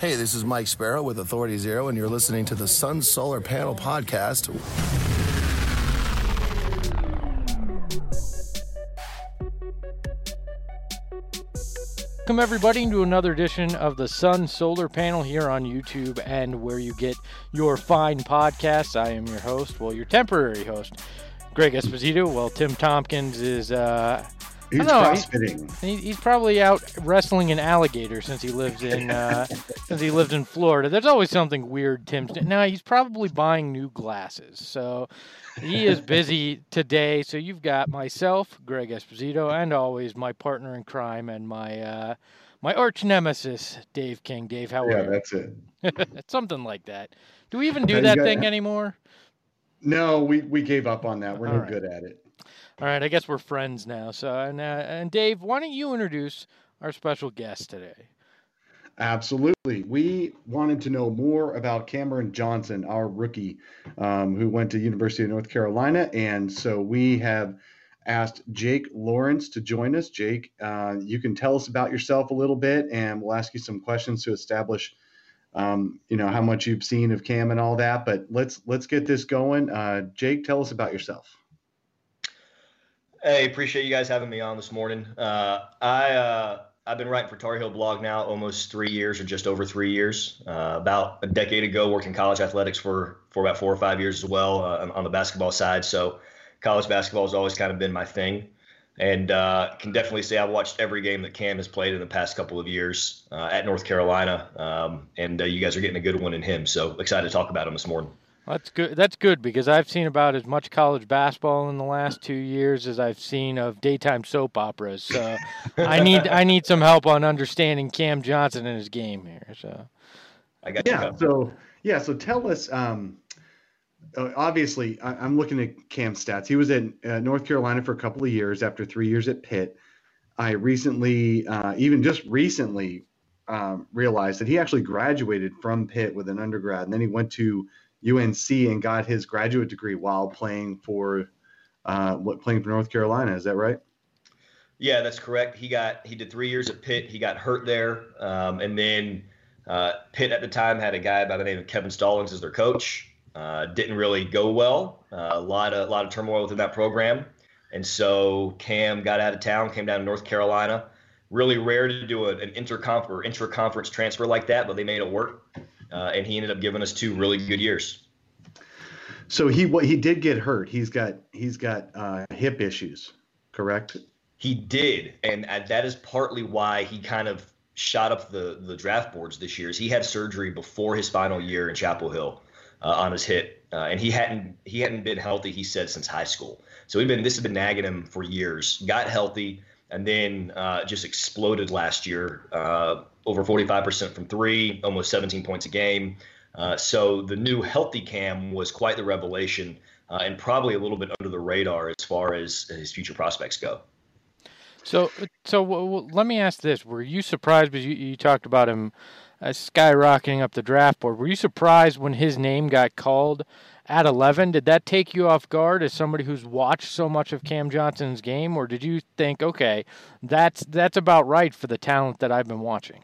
Hey, this is Mike Sparrow with Authority Zero, and you're listening to the Sun Solar Panel Podcast. Welcome, everybody, to another edition of the Sun Solar Panel here on YouTube and where you get your fine podcasts. I am your host, your temporary host, Greg Esposito. Well, Tim Tompkins is, he's crossfitting. He's probably out wrestling an alligator since he lives in Florida. There's always something weird Tim's doing. Now, he's probably buying new glasses, so he is busy today. So you've got myself, Greg Esposito, and always my partner in crime and my arch nemesis, Dave King. Dave, how are you? Yeah, that's it. It's something like that. Do we even do that thing anymore? No, we gave up on that. We're no good at it. All right, I guess we're friends now. So, and Dave, why don't you introduce our special guest today? Absolutely. We wanted to know more about Cameron Johnson, our rookie, who went to University of North Carolina. And so we have asked Jake Lawrence to join us. Jake, you can tell us about yourself a little bit, and we'll ask you some questions to establish, how much you've seen of Cam and all that. But let's get this going. Jake, tell us about yourself. Hey, appreciate you guys having me on this morning. I've been writing for Tar Heel Blog now almost 3 years, or just over 3 years. About a decade ago, working college athletics for about 4 or 5 years as well on the basketball side. So college basketball has always kind of been my thing. And can definitely say I've watched every game that Cam has played in the past couple of years at North Carolina. And you guys are getting a good one in him. So excited to talk about him this morning. That's good. That's good because I've seen about as much college basketball in the last 2 years as I've seen of daytime soap operas. So I need some help on understanding Cam Johnson and his game here. So I got you. So tell us. Obviously, I'm looking at Cam's stats. He was at North Carolina for a couple of years after 3 years at Pitt. I recently, realized that he actually graduated from Pitt with an undergrad, and then he went to UNC and got his graduate degree while playing for North Carolina. Is that right? Yeah, that's correct. He did 3 years at Pitt. He got hurt there, and then Pitt at the time had a guy by the name of Kevin Stallings as their coach. Didn't really go well. A lot of turmoil within that program, and so Cam got out of town, came down to North Carolina. Really rare to do an intra-conference transfer like that, but they made it work. And he ended up giving us 2 really good years. So he did get hurt. He's got hip issues, correct? He did, and that is partly why he kind of shot up the draft boards this year. Is he had surgery before his final year in Chapel Hill on his hip, and he hadn't been healthy, he said, since high school. So this has been nagging him for years. Got healthy, and then just exploded last year. Over 45% from three, almost 17 points a game. So the new healthy Cam was quite the revelation, and probably a little bit under the radar as far as his future prospects go. So let me ask this. Were you surprised, because you talked about him skyrocketing up the draft board, were you surprised when his name got called at 11? Did that take you off guard as somebody who's watched so much of Cam Johnson's game, or did you think, okay, that's about right for the talent that I've been watching?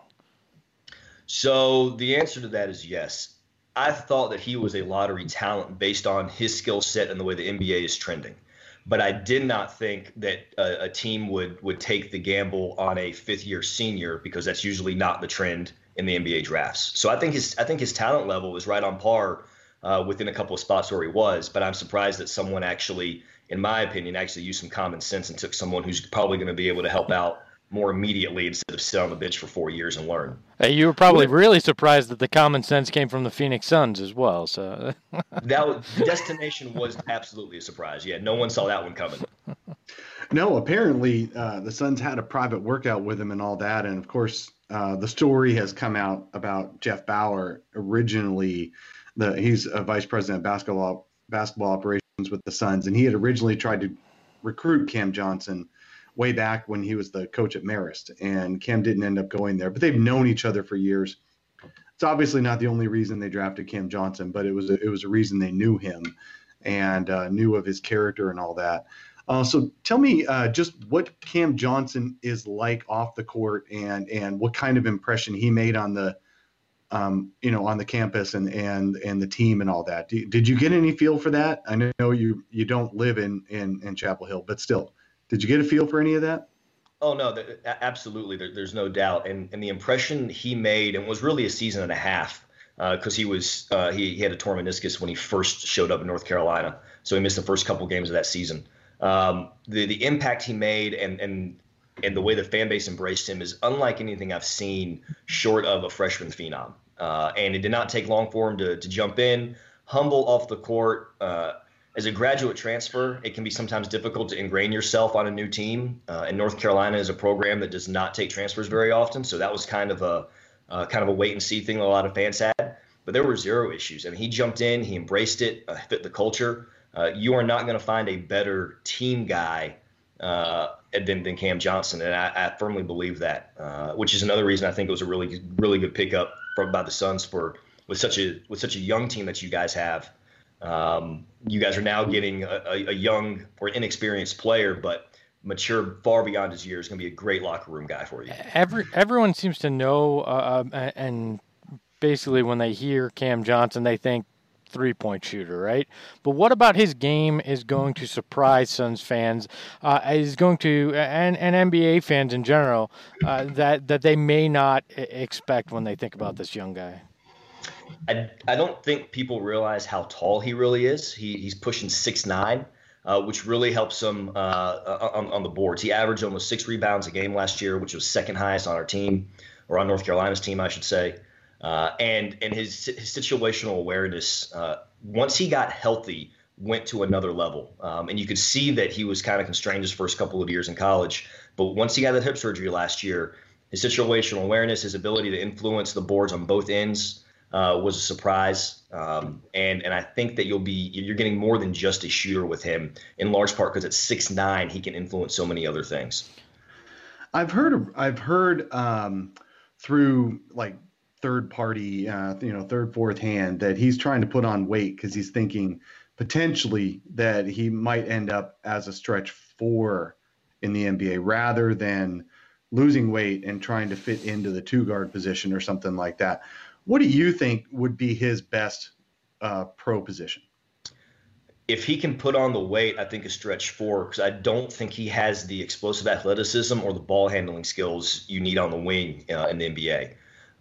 So the answer to that is yes. I thought that he was a lottery talent based on his skill set and the way the NBA is trending. But I did not think that a team would take the gamble on a fifth-year senior, because that's usually not the trend in the NBA drafts. So I think his talent level is right on par within a couple of spots where he was. But I'm surprised that someone actually, in my opinion, used some common sense and took someone who's probably going to be able to help out more immediately instead of sit on the bench for 4 years and learn. Hey, you were probably really surprised that the common sense came from the Phoenix Suns as well. So the destination was absolutely a surprise. Yeah, no one saw that one coming. No, apparently the Suns had a private workout with him and all that. And, of course, the story has come out about Jeff Bower. Originally, he's a vice president of basketball operations with the Suns, and he had originally tried to recruit Cam Johnson way back when he was the coach at Marist, and Cam didn't end up going there. But they've known each other for years. It's obviously not the only reason they drafted Cam Johnson, but it was a reason they knew him and knew of his character and all that. So tell me just what Cam Johnson is like off the court, and what kind of impression he made on the on the campus and the team and all that. Did you get any feel for that? I know you don't live in Chapel Hill, but still, did you get a feel for any of that? Oh no, absolutely. There's no doubt, and the impression he made, and was really a season and a half, because he had a torn meniscus when he first showed up in North Carolina, so he missed the first couple games of that season. The impact he made and the way the fan base embraced him is unlike anything I've seen short of a freshman phenom. And it did not take long for him to jump in, humble off the court. As a graduate transfer, it can be sometimes difficult to ingrain yourself on a new team. And North Carolina is a program that does not take transfers very often, so that was kind of a wait and see thing that a lot of fans had. But there were zero issues. I mean, he jumped in, he embraced it, fit the culture. You are not going to find a better team guy than Cam Johnson, and I firmly believe that, which is another reason I think it was a really good pickup by the Suns with such a young team that you guys have. You guys are now getting a young or inexperienced player, but mature far beyond his years. Going to be a great locker room guy for you. Everyone seems to know, and basically when they hear Cam Johnson, they think three-point shooter, right? But what about his game is going to surprise Suns fans, is going to, and NBA fans in general, that they may not expect when they think about this young guy? I don't think people realize how tall he really is. He's pushing 6'9", which really helps him on the boards. He averaged almost 6 rebounds a game last year, which was second highest on our team, or on North Carolina's team, I should say. And his situational awareness, once he got healthy, went to another level. And you could see that he was kind of constrained his first couple of years in college. But once he got that hip surgery last year, his situational awareness, his ability to influence the boards on both ends was a surprise. And I think that you're getting more than just a shooter with him, in large part because at 6'9", he can influence so many other things. I've heard through like third party, third, fourth hand, that he's trying to put on weight because he's thinking potentially that he might end up as a stretch 4 in the NBA rather than losing weight and trying to fit into the 2-guard position or something like that. What do you think would be his best pro position? If he can put on the weight, I think a stretch 4, because I don't think he has the explosive athleticism or the ball handling skills you need on the wing in the NBA.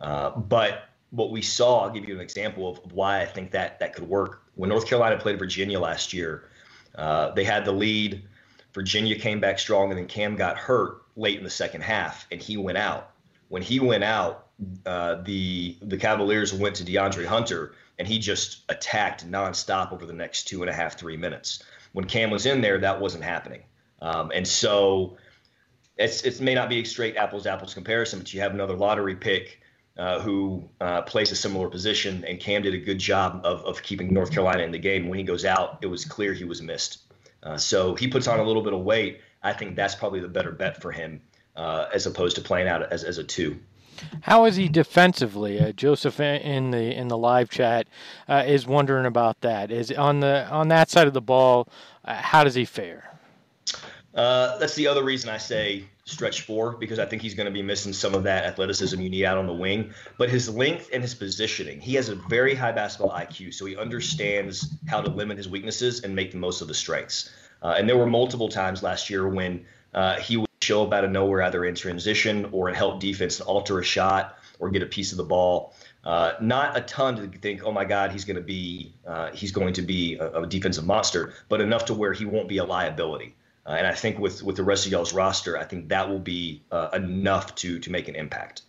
But what we saw, I'll give you an example of why I think that could work. When North Carolina played Virginia last year, they had the lead. Virginia came back strong, and then Cam got hurt late in the second half, and he went out. When he went out, the Cavaliers went to DeAndre Hunter, and he just attacked nonstop over the next 2.5, 3 minutes. When Cam was in there, that wasn't happening. And so it may not be a straight apples comparison, but you have another lottery pick who plays a similar position, and Cam did a good job of keeping North Carolina in the game. When he goes out, it was clear he was missed. So he puts on a little bit of weight. I think that's probably the better bet for him as opposed to playing out as a 2. How is he defensively? Joseph in the live chat is wondering about that. Is on that side of the ball, how does he fare? That's the other reason I say stretch 4, because I think he's going to be missing some of that athleticism you need out on the wing. But his length and his positioning, he has a very high basketball IQ, so he understands how to limit his weaknesses and make the most of the strengths. And there were multiple times last year when he would show up out of nowhere, either in transition or in help defense, and alter a shot or get a piece of the ball. Not a ton to think, oh my God, he's going to be a defensive monster, but enough to where he won't be a liability. And I think with the rest of y'all's roster, I think that will be enough to make an impact.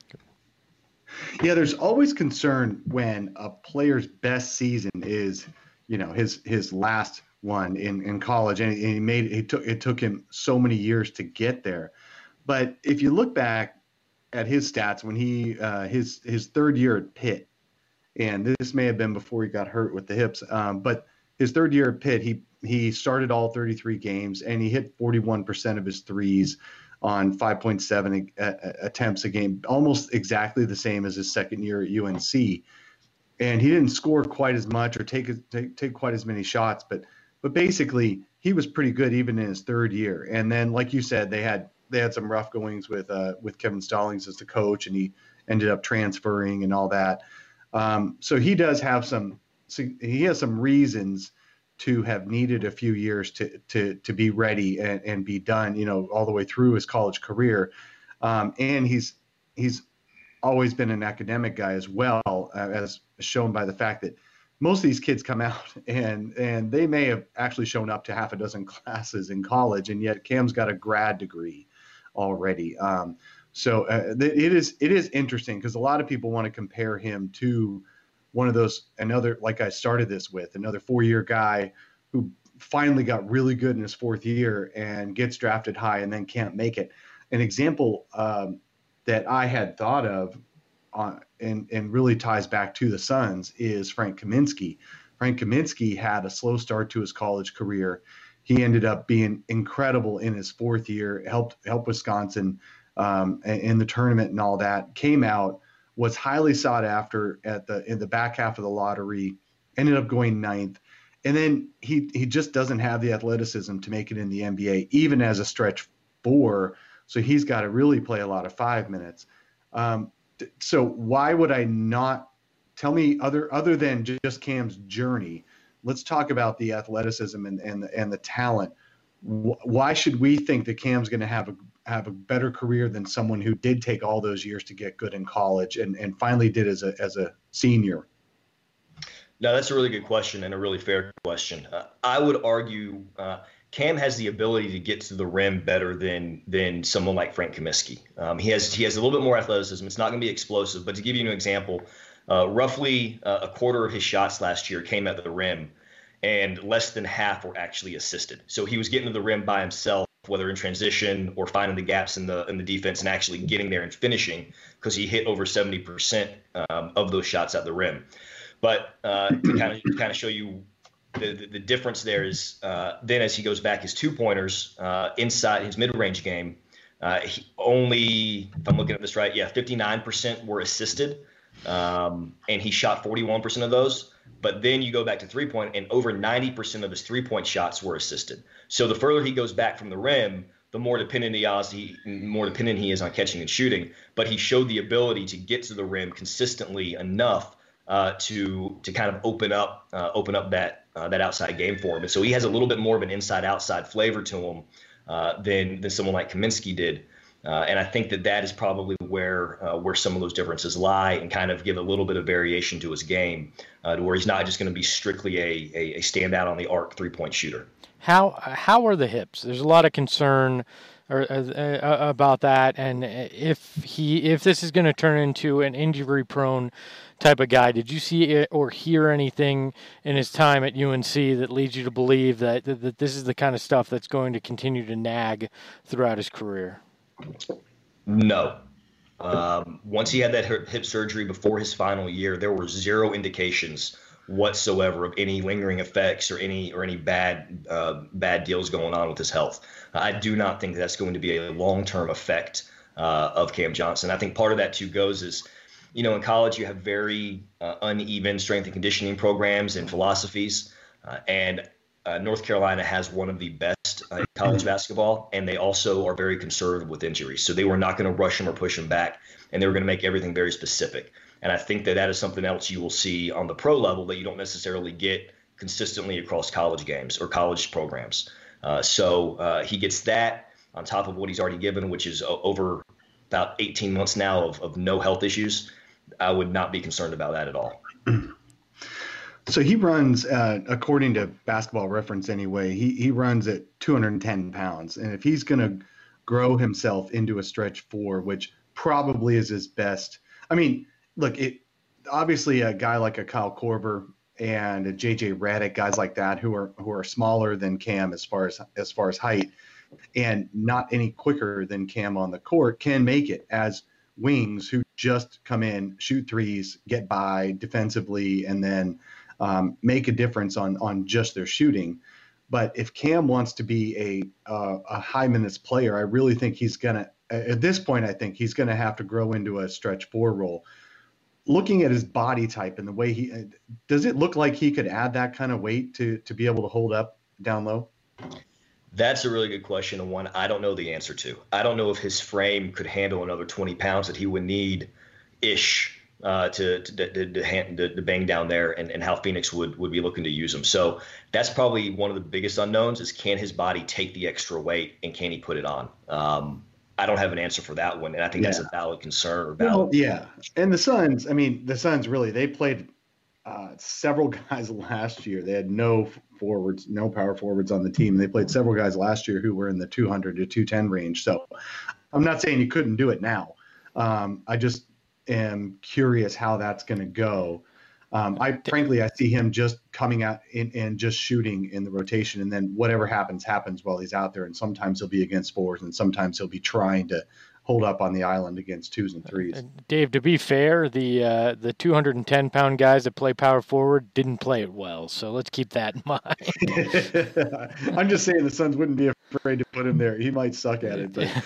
Yeah, there's always concern when a player's best season is, his last one in college, and it took him so many years to get there. But if you look back at his stats when he his third year at Pitt, and this may have been before he got hurt with the hips, but his third year at Pitt, he started all 33 games, and he hit 41% of his threes on 5.7 attempts a game, almost exactly the same as his second year at UNC. And he didn't score quite as much or take quite as many shots, but basically he was pretty good even in his third year. And then, like you said, they had some rough goings with Kevin Stallings as the coach, and ended up transferring and all that. So he does have he has some reasons to have needed a few years to be ready and be done, all the way through his college career. And he's always been an academic guy as well, as shown by the fact that most of these kids come out and they may have actually shown up to half a dozen classes in college, and yet Cam's got a grad degree already. So it is interesting because a lot of people want to compare him to one of those, like I started this with, another 4-year guy who finally got really good in his 4th year and gets drafted high and then can't make it. An example that I had thought of and really ties back to the Suns is Frank Kaminsky. Frank Kaminsky had a slow start to his college career. He ended up being incredible in his 4th year, helped Wisconsin in the tournament and all that, came out, was highly sought after in the back half of the lottery, ended up going 9th. And then he just doesn't have the athleticism to make it in the NBA, even as a stretch 4. So he's got to really play a lot of 5 minutes. So why would I not tell me other than just Cam's journey? Let's talk about the athleticism and the talent. Why should we think that Cam's going to have a better career than someone who did take all those years to get good in college and finally did as a senior? No, that's a really good question and a really fair question. I would argue Cam has the ability to get to the rim better than someone like Frank Kaminsky. He has a little bit more athleticism. It's not going to be explosive, but to give you an example, roughly a quarter of his shots last year came at the rim, and less than half were actually assisted. So he was getting to the rim by himself, whether in transition or finding the gaps in the defense and actually getting there and finishing, because he hit over 70% of those shots at the rim. But to kind of show you the difference there is then as he goes back, his 2-pointers inside his mid-range game, he only, if I'm looking at this right, 59% were assisted, and he shot 41% of those. But then you go back to 3-point, and over 90% of his 3-point shots were assisted. So the further he goes back from the rim, the more dependent he is on catching and shooting. But he showed the ability to get to the rim consistently enough to kind of open up that outside game for him. And so he has a little bit more of an inside-outside flavor to him than someone like Kaminsky did. And I think that is probably where some of those differences lie, and kind of give a little bit of variation to his game, to where he's not just going to be strictly a standout on the arc 3-point shooter. How are the hips? There's a lot of concern about that, and if this is going to turn into an injury-prone type of guy, did you see it or hear anything in his time at UNC that leads you to believe that this is the kind of stuff that's going to continue to nag throughout his career? No. Once he had that hip surgery before his final year, there were zero indications whatsoever of any lingering effects or any bad deals going on with his health. I do not think that's going to be a long-term effect of Cam Johnson. I think part of that too goes is, in college you have very uneven strength and conditioning programs and philosophies, and North Carolina has one of the best in college basketball, and they also are very conservative with injuries. So they were not going to rush him or push him back, and they were going to make everything very specific. And I think that is something else you will see on the pro level that you don't necessarily get consistently across college games or college programs. So he gets that on top of what he's already given, which is over about 18 months now of no health issues. I would not be concerned about that at all. So he runs, according to Basketball Reference anyway, he runs at 210 pounds. And if he's going to grow himself into a stretch 4, which probably is his best, I mean, look, obviously a guy like a Kyle Korver and a JJ Redick, guys like that who are smaller than Cam as far as height and not any quicker than Cam on the court, can make it as wings who just come in, shoot threes, get by defensively, and then make a difference on just their shooting. But if Cam wants to be a high minutes player, I really think he's gonna, at this point, I think he's gonna have to grow into a stretch 4 role. Looking at his body type and the way does it look like he could add that kind of weight to be able to hold up down low? That's a really good question, and one I don't know the answer to. I don't know if his frame could handle another 20 pounds that he would need ish to bang down there, and how Phoenix would be looking to use him. So that's probably one of the biggest unknowns is, can his body take the extra weight and can he put it on? I don't have an answer for that one, and I think that's a valid concern. Or valid. Well, yeah, and the Suns really, they played several guys last year. They had no power forwards on the team. They played several guys last year who were in the 200 to 210 range. So I'm not saying you couldn't do it now. I just am curious how that's going to go. Frankly, I see him just coming out and just shooting in the rotation, and then whatever happens while he's out there. And sometimes he'll be against fours, and sometimes he'll be trying to hold up on the island against twos and threes. Dave, to be fair, the 210-pound guys that play power forward didn't play it well, so let's keep that in mind. I'm just saying the Suns wouldn't be afraid to put him there. He might suck at it, but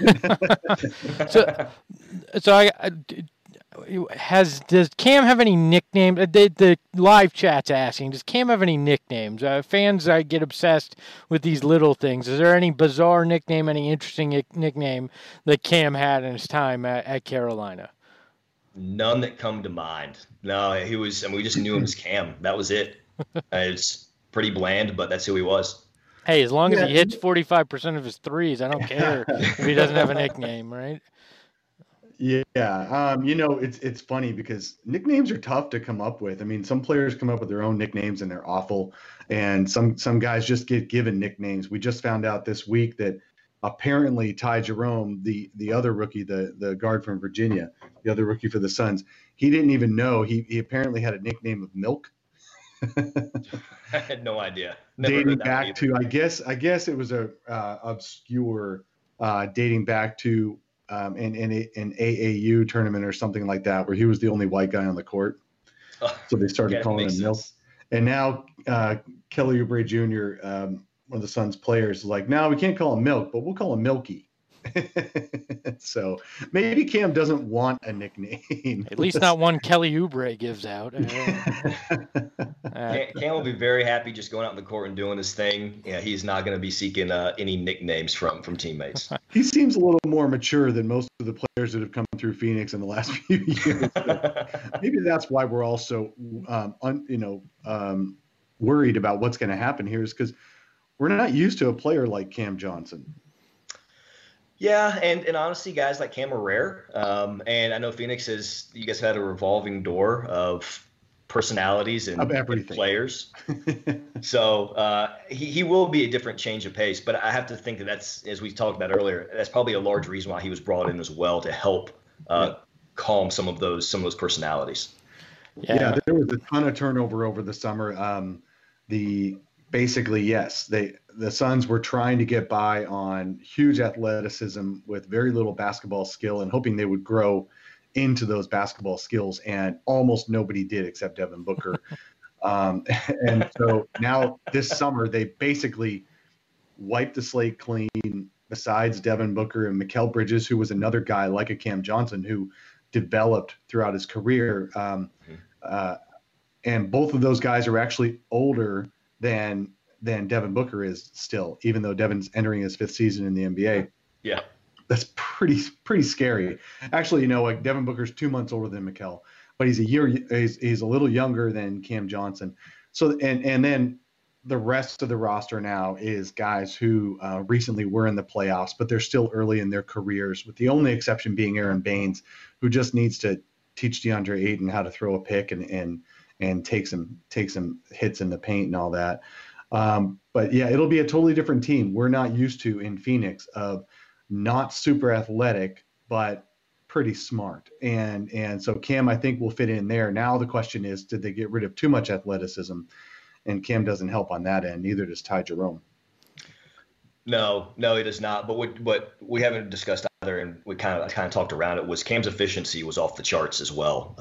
does Cam have any nicknames? The live chat's asking, does Cam have any nicknames? Fans get obsessed with these little things. Is there any bizarre nickname, any interesting nickname that Cam had in his time at Carolina? None that come to mind. No, he was, we just knew him as Cam. That was it. It's pretty bland, but that's who he was. Hey, as long as he hits 45% of his threes, I don't care if he doesn't have a nickname, right? Yeah. It's funny because nicknames are tough to come up with. I mean, some players come up with their own nicknames and they're awful. And some guys just get given nicknames. We just found out this week that apparently Ty Jerome, the other rookie, the guard from Virginia, the other rookie for the Suns, he didn't even know. He apparently had a nickname of Milk. I had no idea. Dating back to, I guess it was a obscure dating back to an AAU tournament or something like that, where he was the only white guy on the court. So they started calling him Milk. And now Kelly Oubre Jr., one of the Suns players, is like, no, we can't call him Milk, but we'll call him Milky. So maybe Cam doesn't want a nickname. At least not one Kelly Oubre gives out. Cam will be very happy just going out in the court and doing his thing. Yeah, he's not going to be seeking any nicknames from teammates. He seems a little more mature than most of the players that have come through Phoenix in the last few years. Maybe that's why we're all so worried about what's going to happen here, is because we're not used to a player like Cam Johnson. Yeah, and honestly, guys like Cam are rare. And I know Phoenix you guys had a revolving door of personalities and players. So he will be a different change of pace. But I have to think that's, as we talked about earlier, that's probably a large reason why he was brought in as well, to help calm some of those personalities. Yeah, there was a ton of turnover over the summer. The Suns were trying to get by on huge athleticism with very little basketball skill and hoping they would grow into those basketball skills, and almost nobody did except Devin Booker. And so now this summer they basically wiped the slate clean, besides Devin Booker and Mikal Bridges, who was another guy like a Cam Johnson who developed throughout his career. And both of those guys are actually older than Devin Booker is still, even though Devin's entering his 5th season in the NBA. Yeah. That's pretty scary. Actually, Devin Booker's 2 months older than Mikal, but he's a little younger than Cam Johnson. So, and then the rest of the roster now is guys who recently were in the playoffs, but they're still early in their careers, with the only exception being Aaron Baines, who just needs to teach DeAndre Ayton how to throw a pick and take some hits in the paint and all that. But yeah, it'll be a totally different team. We're not used to in Phoenix of not super athletic, but pretty smart. And so Cam, I think, will fit in there. Now the question is, did they get rid of too much athleticism? And Cam doesn't help on that end. Neither does Ty Jerome. No, he does not. But what we haven't discussed either, and we kind of talked around it, was Cam's efficiency was off the charts as well.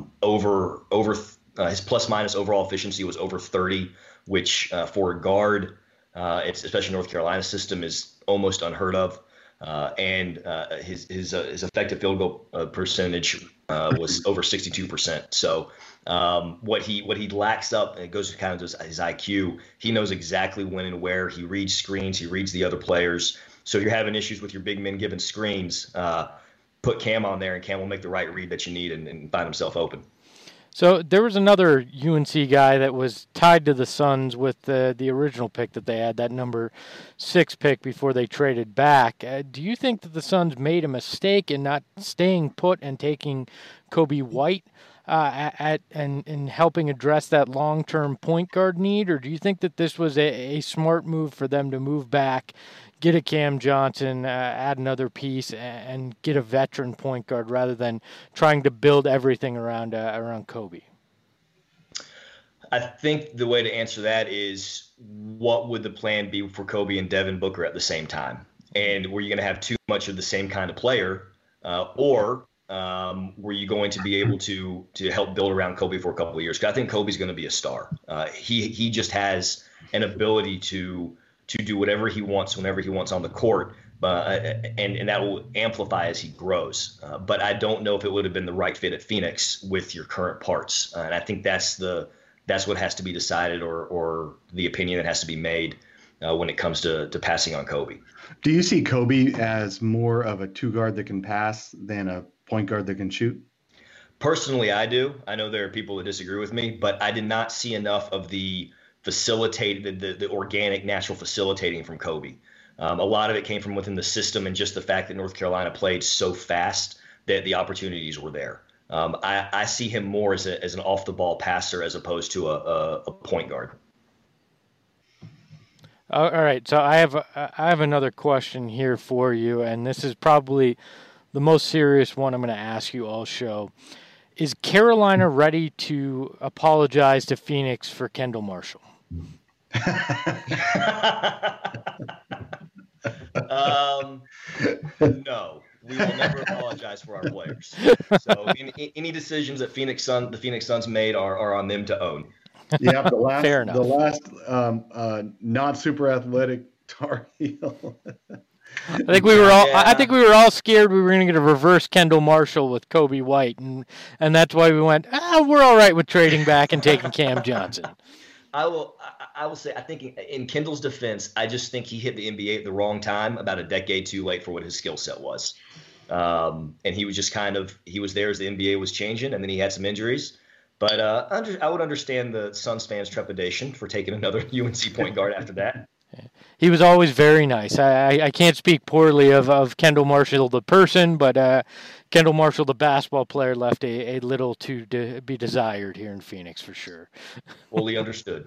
His plus minus overall efficiency was over 30, which for a guard, especially North Carolina system, is almost unheard of. And his effective field goal percentage was over 62%. So what he lacks up, and it goes to kind of his IQ. He knows exactly when and where. He reads screens. He reads the other players. So if you're having issues with your big men giving screens, put Cam on there, and Cam will make the right read that you need and find himself open. So there was another UNC guy that was tied to the Suns with the original pick that they had, that number 6 pick before they traded back. Do you think that the Suns made a mistake in not staying put and taking Coby White and helping address that long-term point guard need, or do you think that this was a smart move for them to move back, get a Cam Johnson, add another piece, and get a veteran point guard rather than trying to build everything around Coby? I think the way to answer that is, what would the plan be for Coby and Devin Booker at the same time? And were you going to have too much of the same kind of player, or were you going to be able to help build around Coby for a couple of years? Because I think Coby's going to be a star. He just has an ability to do whatever he wants whenever he wants on the court, and that will amplify as he grows. But I don't know if it would have been the right fit at Phoenix with your current parts, and I think that's what has to be decided, or the opinion that has to be made when it comes to passing on Coby. Do you see Coby as more of a 2-guard that can pass than a point guard that can shoot? Personally, I do. I know there are people that disagree with me, but I did not see enough of the organic, natural facilitating from Coby. A lot of it came from within the system, and just the fact that North Carolina played so fast that the opportunities were there. I see him more as an off-the-ball passer as opposed to a point guard. All right, so I have another question here for you, and this is probably the most serious one I'm going to ask you all show. Is Carolina ready to apologize to Phoenix for Kendall Marshall? No, we will never apologize for our players. So any decisions that the Phoenix Suns made are on them to own. Yeah, the last not super athletic Tar Heel. I think we were all scared we were going to get a reverse Kendall Marshall with Coby White, and that's why we went, we're all right with trading back and taking Cam Johnson. I will say, I think in Kendall's defense, I just think he hit the NBA at the wrong time, about a decade too late for what his skill set was. And he was just he was there as the NBA was changing, and then he had some injuries. But I would understand the Suns fans' trepidation for taking another UNC point guard after that. He was always very nice. I can't speak poorly of Kendall Marshall the person, but Kendall Marshall the basketball player left a little to be desired here in Phoenix for sure. Fully understood.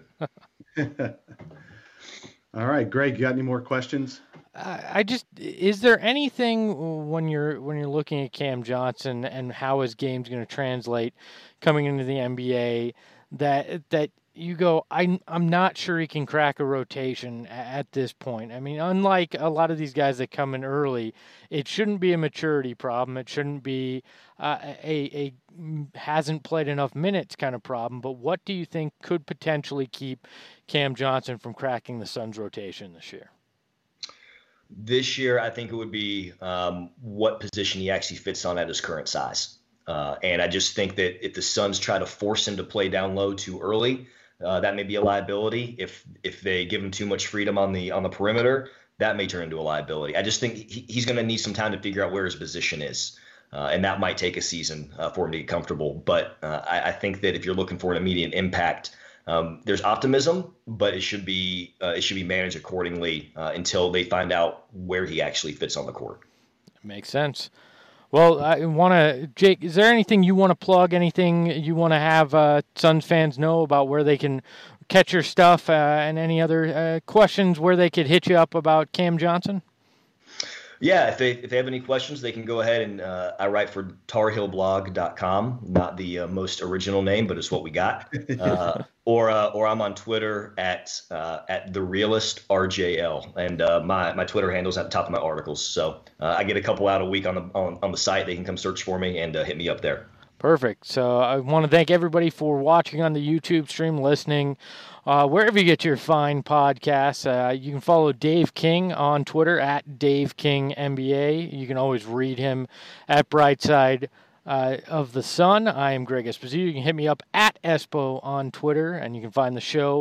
All right, Greg, you got any more questions? Is there anything when you're looking at Cam Johnson and how his game's going to translate coming into the NBA that you go, I'm not sure he can crack a rotation at this point. I mean, unlike a lot of these guys that come in early, it shouldn't be a maturity problem. It shouldn't be a hasn't played enough minutes kind of problem. But what do you think could potentially keep Cam Johnson from cracking the Suns' rotation this year? This year, I think it would be what position he actually fits on at his current size. And I just think that if the Suns try to force him to play down low too early, that may be a liability. If they give him too much freedom on the perimeter, that may turn into a liability. I just think he's going to need some time to figure out where his position is, and that might take a season for him to get comfortable. But I think that if you're looking for an immediate impact, there's optimism, but it should be managed accordingly until they find out where he actually fits on the court. Makes sense. Well, I want to, Jake, is there anything you want to plug, anything you want to have Suns fans know about where they can catch your stuff and any other questions where they could hit you up about Cam Johnson? Yeah, if they have any questions, they can go ahead and I write for TarHeelBlog.com, not the most original name, but it's what we got. Or I'm on Twitter at TheRealistRJL, and my Twitter handle's at the top of my articles. So I get a couple out a week on the site. They can come search for me and hit me up there. Perfect. So I want to thank everybody for watching on the YouTube stream, listening. Wherever you get your fine podcasts, you can follow Dave King on Twitter at DaveKingNBA. You can always read him at Brightside of the Sun. I am Greg Esposito. You can hit me up at Espo on Twitter, and you can find the show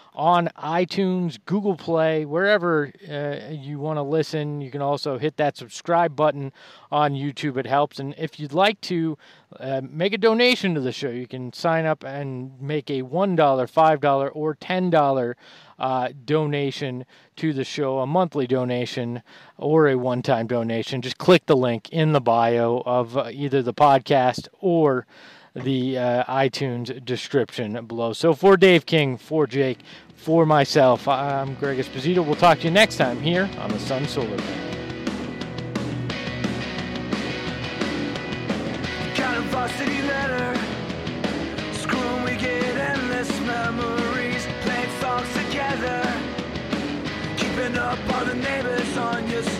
on iTunes, Google Play, wherever you want to listen. You can also hit that subscribe button on YouTube. It helps. And if you'd like to make a donation to the show, you can sign up and make a $1, $5, or $10 donation to the show, a monthly donation or a one-time donation. Just click the link in the bio of either the podcast or the iTunes description below. So for Dave King, for Jake, for myself, I'm Greg Esposito. We'll talk to you next time here on the Sun Solar Panel. Counting varsity letter, screwing, we get endless memories, playing songs together, keeping up all the neighbors on your